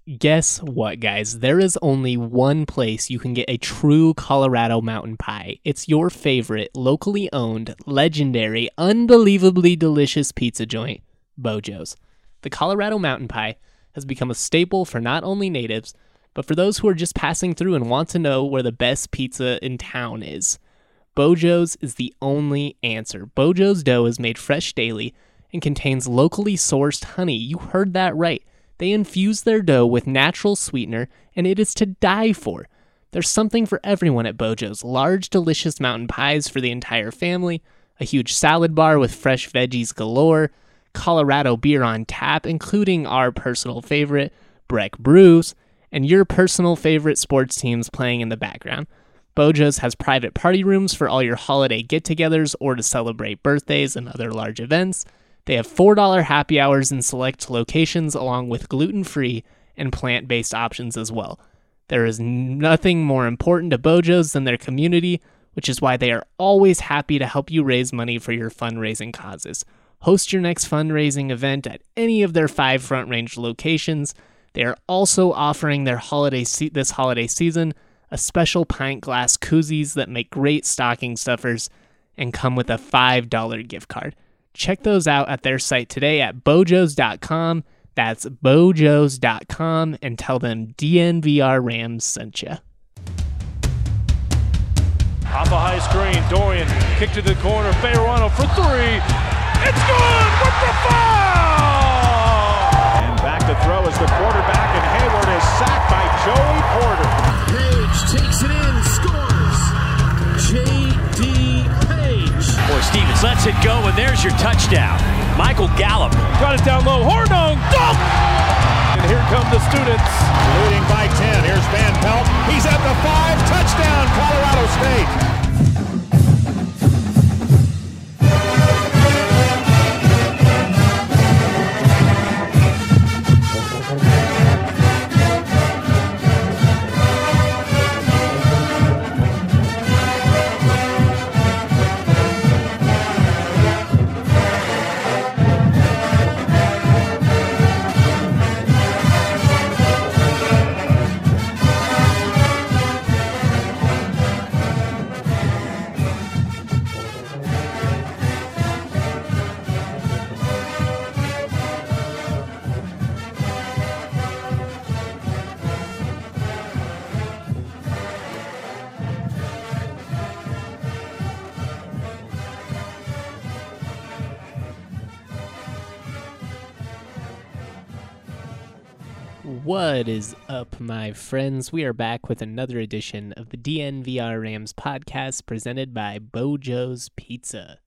Guess what, guys? There is only one place you can get a true Colorado mountain pie. It's your favorite, locally owned, legendary, unbelievably delicious pizza joint, Bojo's. The Colorado mountain pie has become a staple for not only natives, but for those who are just passing through and want to know where the best pizza in town is. Bojo's is the only answer. Bojo's dough is made fresh daily and contains locally sourced honey. You heard that right. They infuse their dough with natural sweetener, and it is to die for. There's something for everyone at Bojo's. Large, delicious mountain pies for the entire family, a huge salad bar with fresh veggies galore, Colorado beer on tap, including our personal favorite, Breck Brews, and your personal favorite sports teams playing in the background. Bojo's has private party rooms for all your holiday get-togethers or to celebrate birthdays and other large events. They have $4 happy hours in select locations along with gluten-free and plant-based options as well. There is nothing more important to Bojo's than their community, which is why they are always happy to help you raise money for your fundraising causes. Host your next fundraising event at any of their 5 Front Range locations. They are also offering their this holiday season a special pint glass koozies that make great stocking stuffers and come with a $5 gift card. Check those out at their site today at bojos.com. That's bojos.com, and tell them DNVR Rams sent you. Off a high screen, Dorian kick to the corner, Bejarano for 3. It's good with the foul! And back to throw is the quarterback, and Hayward is sacked by Joey Porter. Page takes it in, scores. J.D. Page. Boy, Stevens lets it go, and there's your touchdown. Michael Gallup. Got it down low, Hornung, dunk! And here come the students. Leading by 10, here's Van Pelt. He's at the 5, touchdown, Colorado State. What is up, my friends? We are back with another edition of the DNVR Rams podcast presented by Bojo's Pizza.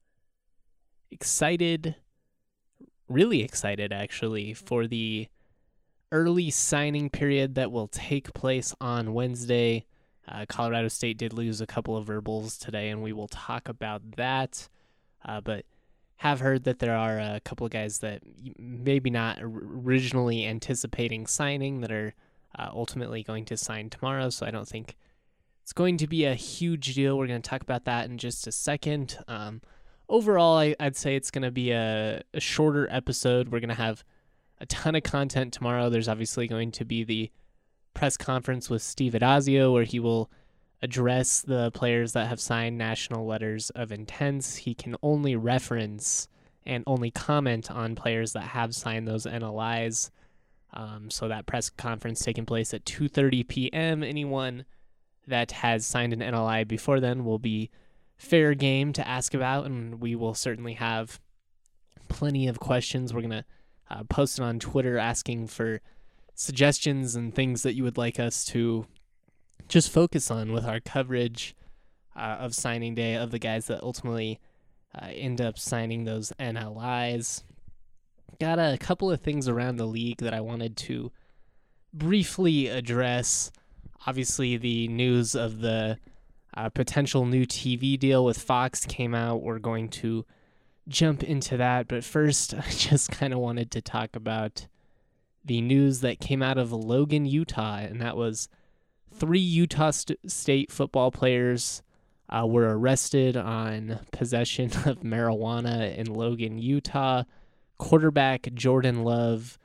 Excited, really excited actually, for the early signing period that will take place on Wednesday. Colorado State did lose a couple of verbals today, and we will talk about that. But have heard that there are a couple of guys that maybe not originally anticipating signing that are ultimately going to sign tomorrow, so I don't think it's going to be a huge deal. We're going to talk about that in just a second. Overall, I'd say it's going to be a shorter episode. We're going to have a ton of content tomorrow. There's obviously going to be the press conference with Steve Addazio, where he will address the players that have signed national letters of intent. He can only reference and only comment on players that have signed those NLIs. So that press conference taking place at 2:30 p.m. Anyone that has signed an NLI before then will be fair game to ask about, and we will certainly have plenty of questions. We're going to post it on Twitter asking for suggestions and things that you would like us to just focus on with our coverage of signing day of the guys that ultimately end up signing those NLIs. Got a couple of things around the league that I wanted to briefly address. Obviously, the news of the potential new TV deal with Fox came out. We're going to jump into that, but first, I just kind of wanted to talk about the news that came out of Logan, Utah, and that was 3 Utah State football players were arrested on possession of marijuana in Logan, Utah. Quarterback Jordan Love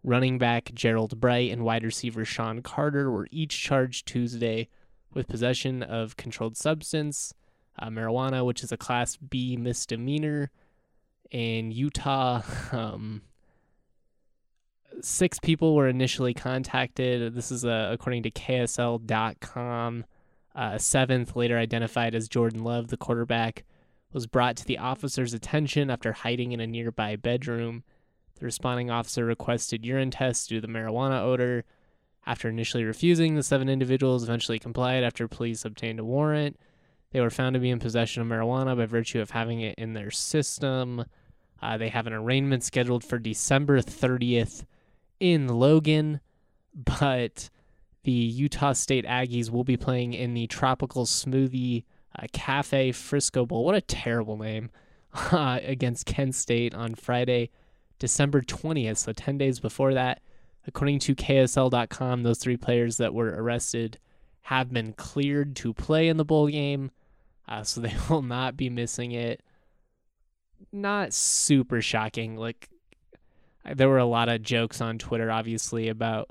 Running back Gerald Bright and wide receiver Sean Carter were each charged Tuesday with possession of controlled substance, marijuana, which is a Class B misdemeanor. In Utah, 6 people were initially contacted. This is according to KSL.com. A 7th, later identified as Jordan Love, the quarterback, was brought to the officer's attention after hiding in a nearby bedroom. The responding officer requested urine tests due to the marijuana odor. After initially refusing, the 7 individuals eventually complied after police obtained a warrant. They were found to be in possession of marijuana by virtue of having it in their system. They have an arraignment scheduled for December 30th in Logan, but the Utah State Aggies will be playing in the Tropical Smoothie Cafe Frisco Bowl. What a terrible name. Against Kent State on Friday, December 20th, so 10 days before that. According to KSL.com, those 3 players that were arrested have been cleared to play in the bowl game, so they will not be missing it. Not super shocking. Like, there were a lot of jokes on Twitter, obviously, about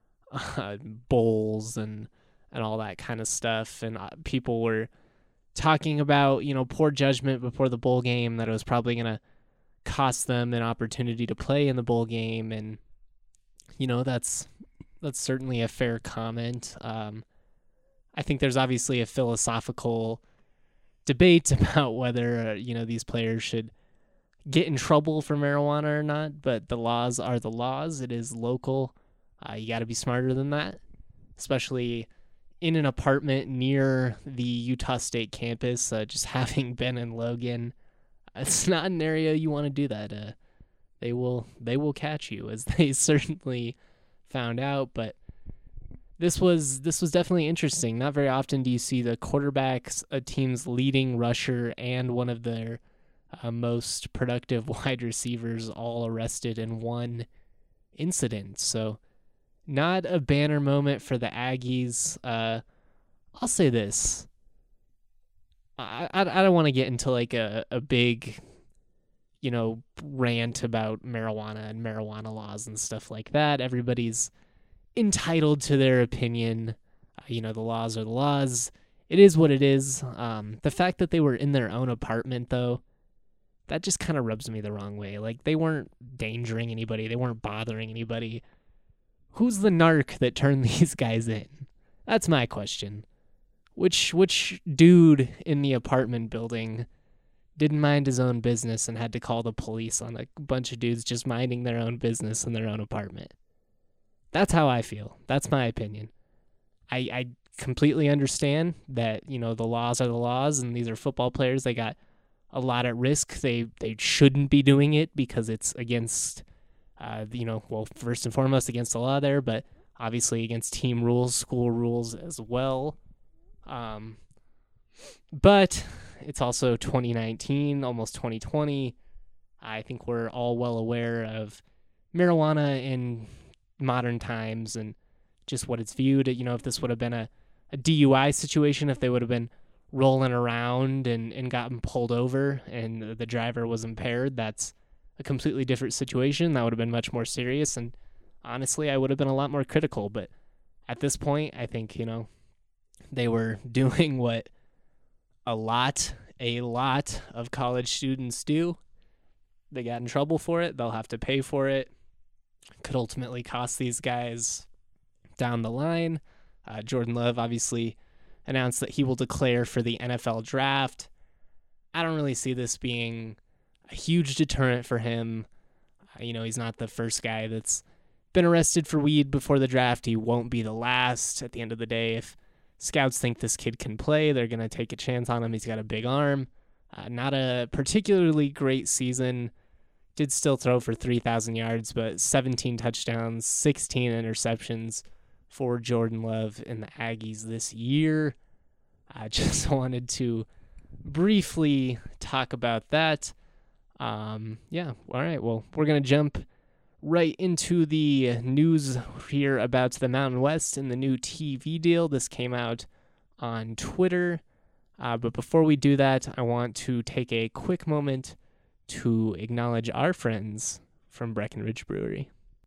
bowls and all that kind of stuff, and people were talking about, poor judgment before the bowl game, that it was probably going to cost them an opportunity to play in the bowl game, and that's certainly a fair comment. I think there's obviously a philosophical debate about whether these players should get in trouble for marijuana or not, but the laws are the laws. It is local. You got to be smarter than that, especially in an apartment near the Utah State campus. Just having been in Logan, it's not an area you want to do that. They will catch you, as they certainly found out. But this was definitely interesting. Not very often do you see the quarterbacks, a team's leading rusher, and one of their most productive wide receivers all arrested in one incident. So not a banner moment for the Aggies. I'll say this. I don't want to get into like a big, rant about marijuana and marijuana laws and stuff like that. Everybody's entitled to their opinion. The laws are the laws. It is what it is. The fact that they were in their own apartment, though, that just kind of rubs me the wrong way. Like, they weren't endangering anybody. They weren't bothering anybody. Who's the narc that turned these guys in? That's my question. Which dude in the apartment building didn't mind his own business and had to call the police on a bunch of dudes just minding their own business in their own apartment? That's how I feel. That's my opinion. I completely understand that, the laws are the laws, and these are football players. They got a lot at risk. They shouldn't be doing it because it's against, first and foremost against the law there, but obviously against team rules, school rules as well. But it's also 2019, almost 2020. I think we're all well aware of marijuana in modern times and just what it's viewed. If this would have been a DUI situation, if they would have been rolling around and gotten pulled over and the driver was impaired, that's a completely different situation. That would have been much more serious, and honestly, I would have been a lot more critical. But at this point, I think, they were doing what a lot of college students do. They got in trouble for it. They'll have to pay for it. Could ultimately cost these guys down the line. Jordan Love obviously announced that he will declare for the NFL draft. I don't really see this being a huge deterrent for him. He's not the first guy that's been arrested for weed before the draft. He won't be the last. At the end of the day, if scouts think this kid can play, they're going to take a chance on him. He's got a big arm. Not a particularly great season. Did still throw for 3,000 yards, but 17 touchdowns, 16 interceptions for Jordan Love and the Aggies this year. I just wanted to briefly talk about that. All right. Well, we're going to jump right into the news here about the Mountain West and the new TV deal. This came out on Twitter. But before we do that, I want to take a quick moment to acknowledge our friends from Breckenridge Brewery.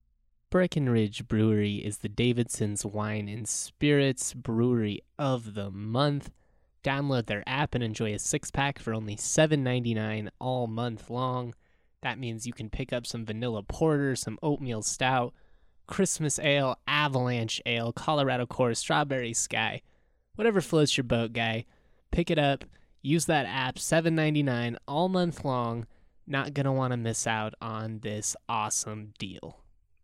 Breckenridge Brewery is the Davidson's Wine and Spirits Brewery of the Month. Download their app and enjoy a 6-pack for only $7.99 all month long. That means you can pick up some vanilla porter, some oatmeal stout, Christmas ale, avalanche ale, Colorado Core, strawberry sky, whatever floats your boat, guy. Pick it up, use that app, $7.99 all month long. Not going to want to miss out on this awesome deal.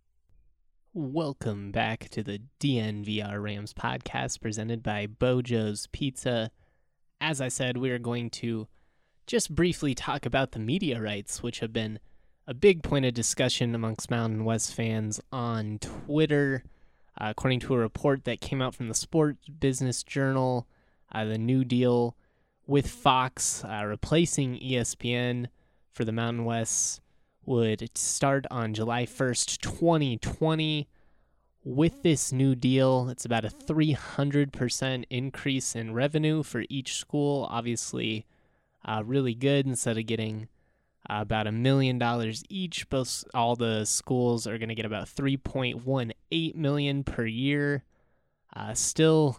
Welcome back to the DNVR Rams podcast presented by Bojo's Pizza. As I said, we are going to just briefly talk about the media rights, which have been a big point of discussion amongst Mountain West fans on Twitter. According to a report that came out from the Sports Business Journal, the new deal with Fox replacing ESPN for the Mountain West would start on July 1st, 2020. With this new deal, it's about a 300% increase in revenue for each school. Obviously, really good. Instead of getting about $1 million each, all the schools are going to get about $3.18 million per year. Still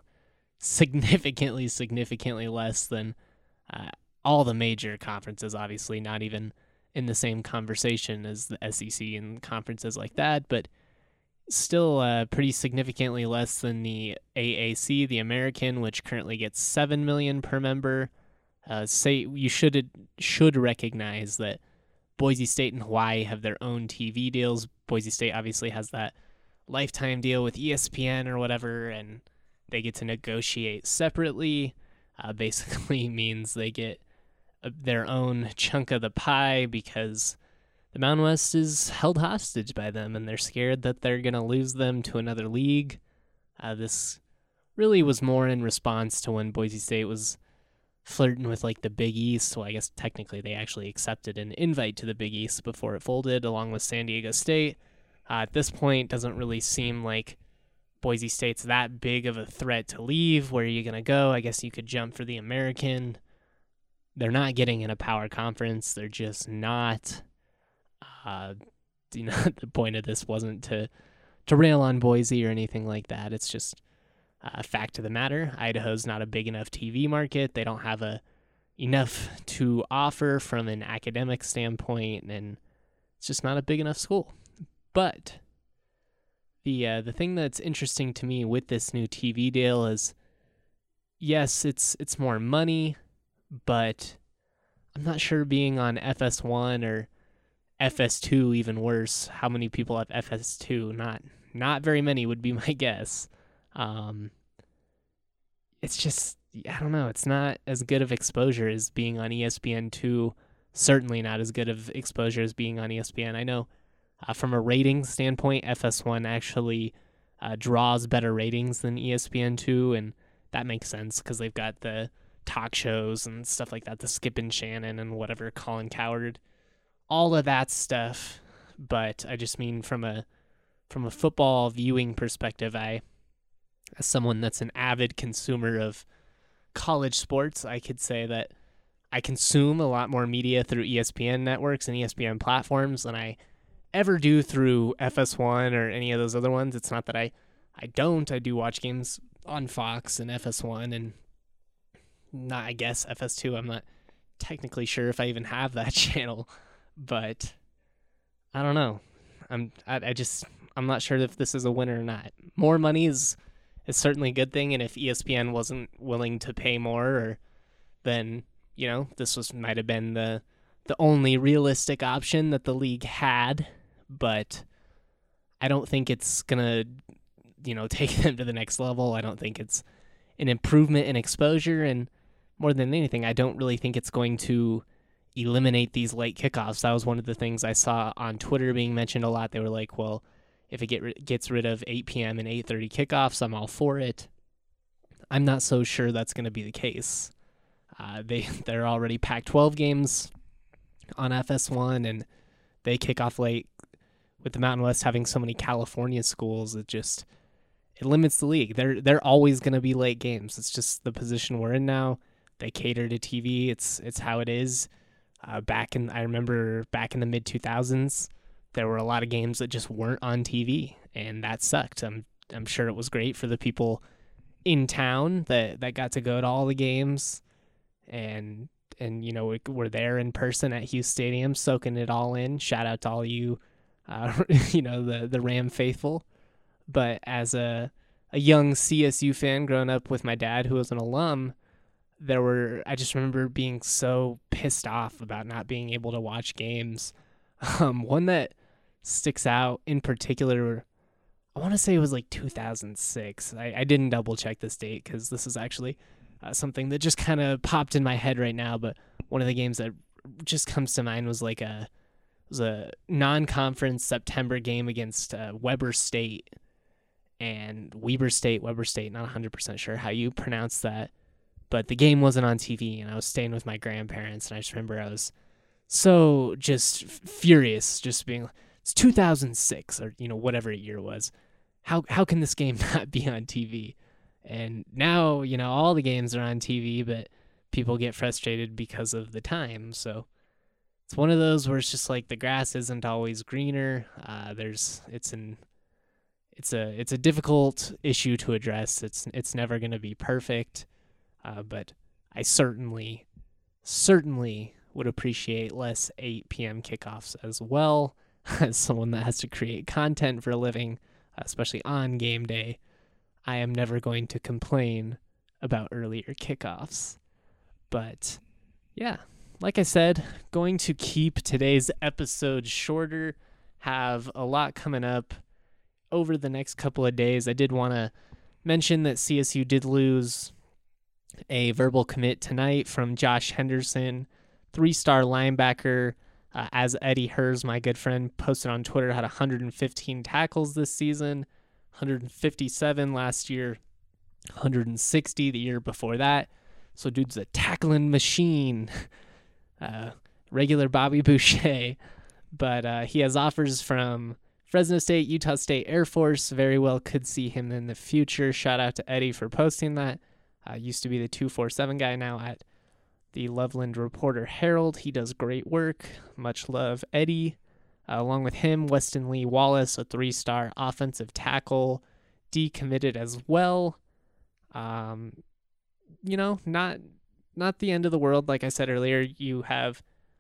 significantly less than all the major conferences, obviously not even in the same conversation as the SEC and conferences like that, but still pretty significantly less than the AAC, the American, which currently gets $7 million per member. You should recognize that Boise State and Hawaii have their own TV deals. Boise State obviously has that lifetime deal with ESPN or whatever, and they get to negotiate separately. Basically means they get their own chunk of the pie because the Mountain West is held hostage by them, and they're scared that they're going to lose them to another league. This really was more in response to when Boise State was flirting with like the Big East. Well, I guess technically they actually accepted an invite to the Big East before it folded, along with San Diego State. At this point, it doesn't really seem like Boise State's that big of a threat to leave. Where are you going to go? I guess you could jump for the American. They're not getting in a power conference. They're just not. The point of this wasn't to rail on Boise or anything like that. It's just a fact of the matter. Idaho's not a big enough TV market. They don't have enough to offer from an academic standpoint, and it's just not a big enough school. But the thing that's interesting to me with this new TV deal is, yes, it's more money, but I'm not sure being on FS1 or FS2, even worse. How many people have FS2? Not very many would be my guess. It's just, I don't know. It's not as good of exposure as being on ESPN2. Certainly not as good of exposure as being on ESPN. I know from a ratings standpoint, FS1 actually draws better ratings than ESPN2, and that makes sense because they've got the talk shows and stuff like that, the Skip and Shannon and whatever, Colin Cowherd, all of that stuff. But I just mean from a football viewing perspective, as someone that's an avid consumer of college sports, I could say that I consume a lot more media through ESPN networks and ESPN platforms than I ever do through FS1 or any of those other ones. It's not that I don't. I do watch games on Fox and FS1 and not, I guess, FS2. I'm not technically sure if I even have that channel, but I don't know. I'm not sure if this is a winner or not. More money is certainly a good thing, and if ESPN wasn't willing to pay more, then this might have been the only realistic option that the league had. But I don't think it's gonna take them to the next level. I don't think it's an improvement in exposure, and more than anything, I don't really think it's going to eliminate these late kickoffs. That was one of the things I saw on Twitter being mentioned a lot. They were like, well, if it gets rid of 8 p.m. and 8:30 kickoffs, I'm all for it. I'm not so sure that's going to be the case. They're already Pac-12 games on FS1, and they kick off late. With the Mountain West having so many California schools, it limits the league. They're always going to be late games. It's just the position we're in now. They cater to TV. It's how it is. I remember back in the mid 2000s, there were a lot of games that just weren't on TV, and that sucked. I'm sure it was great for the people in town that got to go to all the games and we're there in person at Hughes Stadium soaking it all in. Shout out to all you, the Ram faithful. But as a young CSU fan growing up with my dad, who was an alum, I just remember being so pissed off about not being able to watch games. One that sticks out in particular, I want to say it was like 2006. I didn't double check this date because this is actually something that just kind of popped in my head right now. But one of the games that just comes to mind was a non-conference September game against Weber State and Weber State, not 100% sure how you pronounce that. But the game wasn't on TV, and I was staying with my grandparents, and I just remember I was so just furious, just being, it's 2006 or whatever year it was. How can this game not be on TV? And now all the games are on TV, but people get frustrated because of the time. So it's one of those where it's just like the grass isn't always greener. It's a difficult issue to address. It's never going to be perfect. But I certainly would appreciate less 8 p.m. kickoffs as well. As someone that has to create content for a living, especially on game day, I am never going to complain about earlier kickoffs. But yeah, like I said, going to keep today's episode shorter, have a lot coming up over the next couple of days. I did want to mention that CSU did lose a verbal commit tonight from Josh Henderson, 3-star linebacker. As Eddie Hers, my good friend, posted on Twitter, had 115 tackles this season, 157 last year, 160 the year before that. So dude's a tackling machine, regular Bobby Boucher. But he has offers from Fresno State, Utah State, Air Force. Very well could see him in the future. Shout out to Eddie for posting that. Used to be the 247 guy, now at the Loveland Reporter Herald. He does great work. Much love, Eddie. Along with him, Weston Lee Wallace, a 3-star offensive tackle, decommitted as well. Not the end of the world. Like I said earlier, you have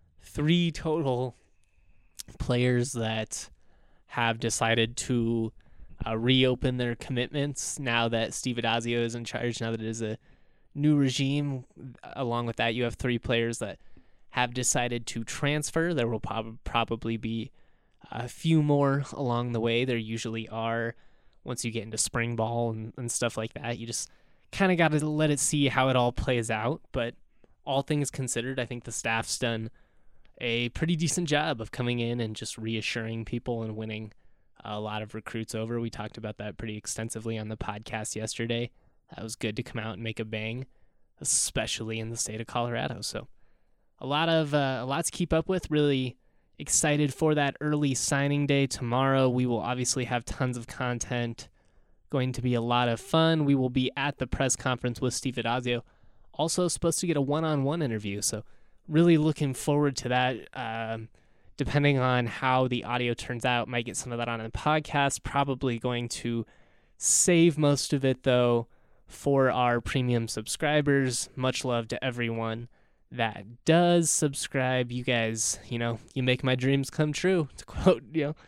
3 total players that have decided to reopen their commitments now that Steve Addazio is in charge, now that it is a new regime. Along with that, you have 3 players that have decided to transfer. There will probably be a few more along the way. There usually are once you get into spring ball and stuff like that. You just kind of got to let it see how it all plays out. But all things considered, I think the staff's done a pretty decent job of coming in and just reassuring people and winning a lot of recruits over. We talked about that pretty extensively on the podcast yesterday. That was good to come out and make a bang, especially in the state of Colorado. So a lot to keep up with. Really excited for that early signing day tomorrow. We will obviously have tons of content. Going to be a lot of fun. We will be at the press conference with Steve Addazio. Also supposed to get a one-on-one interview. So really looking forward to that. Depending on how the audio turns out, might get some of that on the podcast. Probably going to save most of it, though, for our premium subscribers. Much love to everyone that does subscribe. You guys, you make my dreams come true. To quote,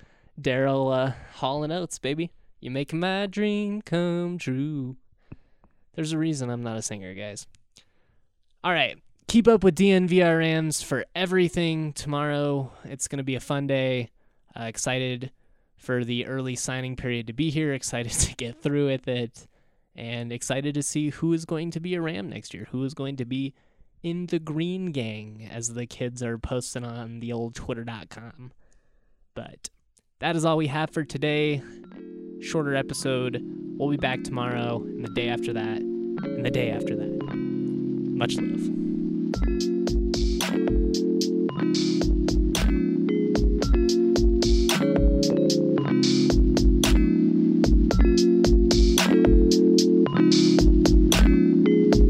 Daryl Hall & Oates, baby. You make my dream come true. There's a reason I'm not a singer, guys. All right. Keep up with DNVR Rams for everything tomorrow. It's going to be a fun day. Excited for the early signing period to be here. Excited to get through with it. And excited to see who is going to be a Ram next year. Who is going to be in the Green Gang, as the kids are posting on the old Twitter.com. But that is all we have for today. Shorter episode. We'll be back tomorrow, and the day after that, and the day after that. Much love.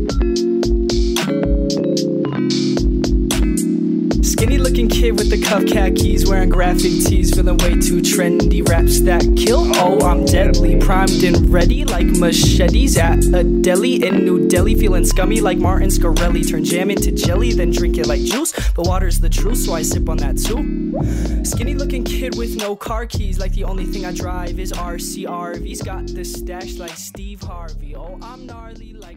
Skinny looking kid with the cuff khakis, wearing graphic tees, feeling way too trendy. Raps that kill, oh I'm deadly, primed and ready like machetes at a deli in New Delhi. Feeling scummy like Martin Scarelli, turn jam into jelly, then drink it like juice. But water's the truth, so I sip on that too. Skinny looking kid with no car keys, like the only thing I drive is RCRVs. Got the stash like Steve Harvey, oh I'm gnarly like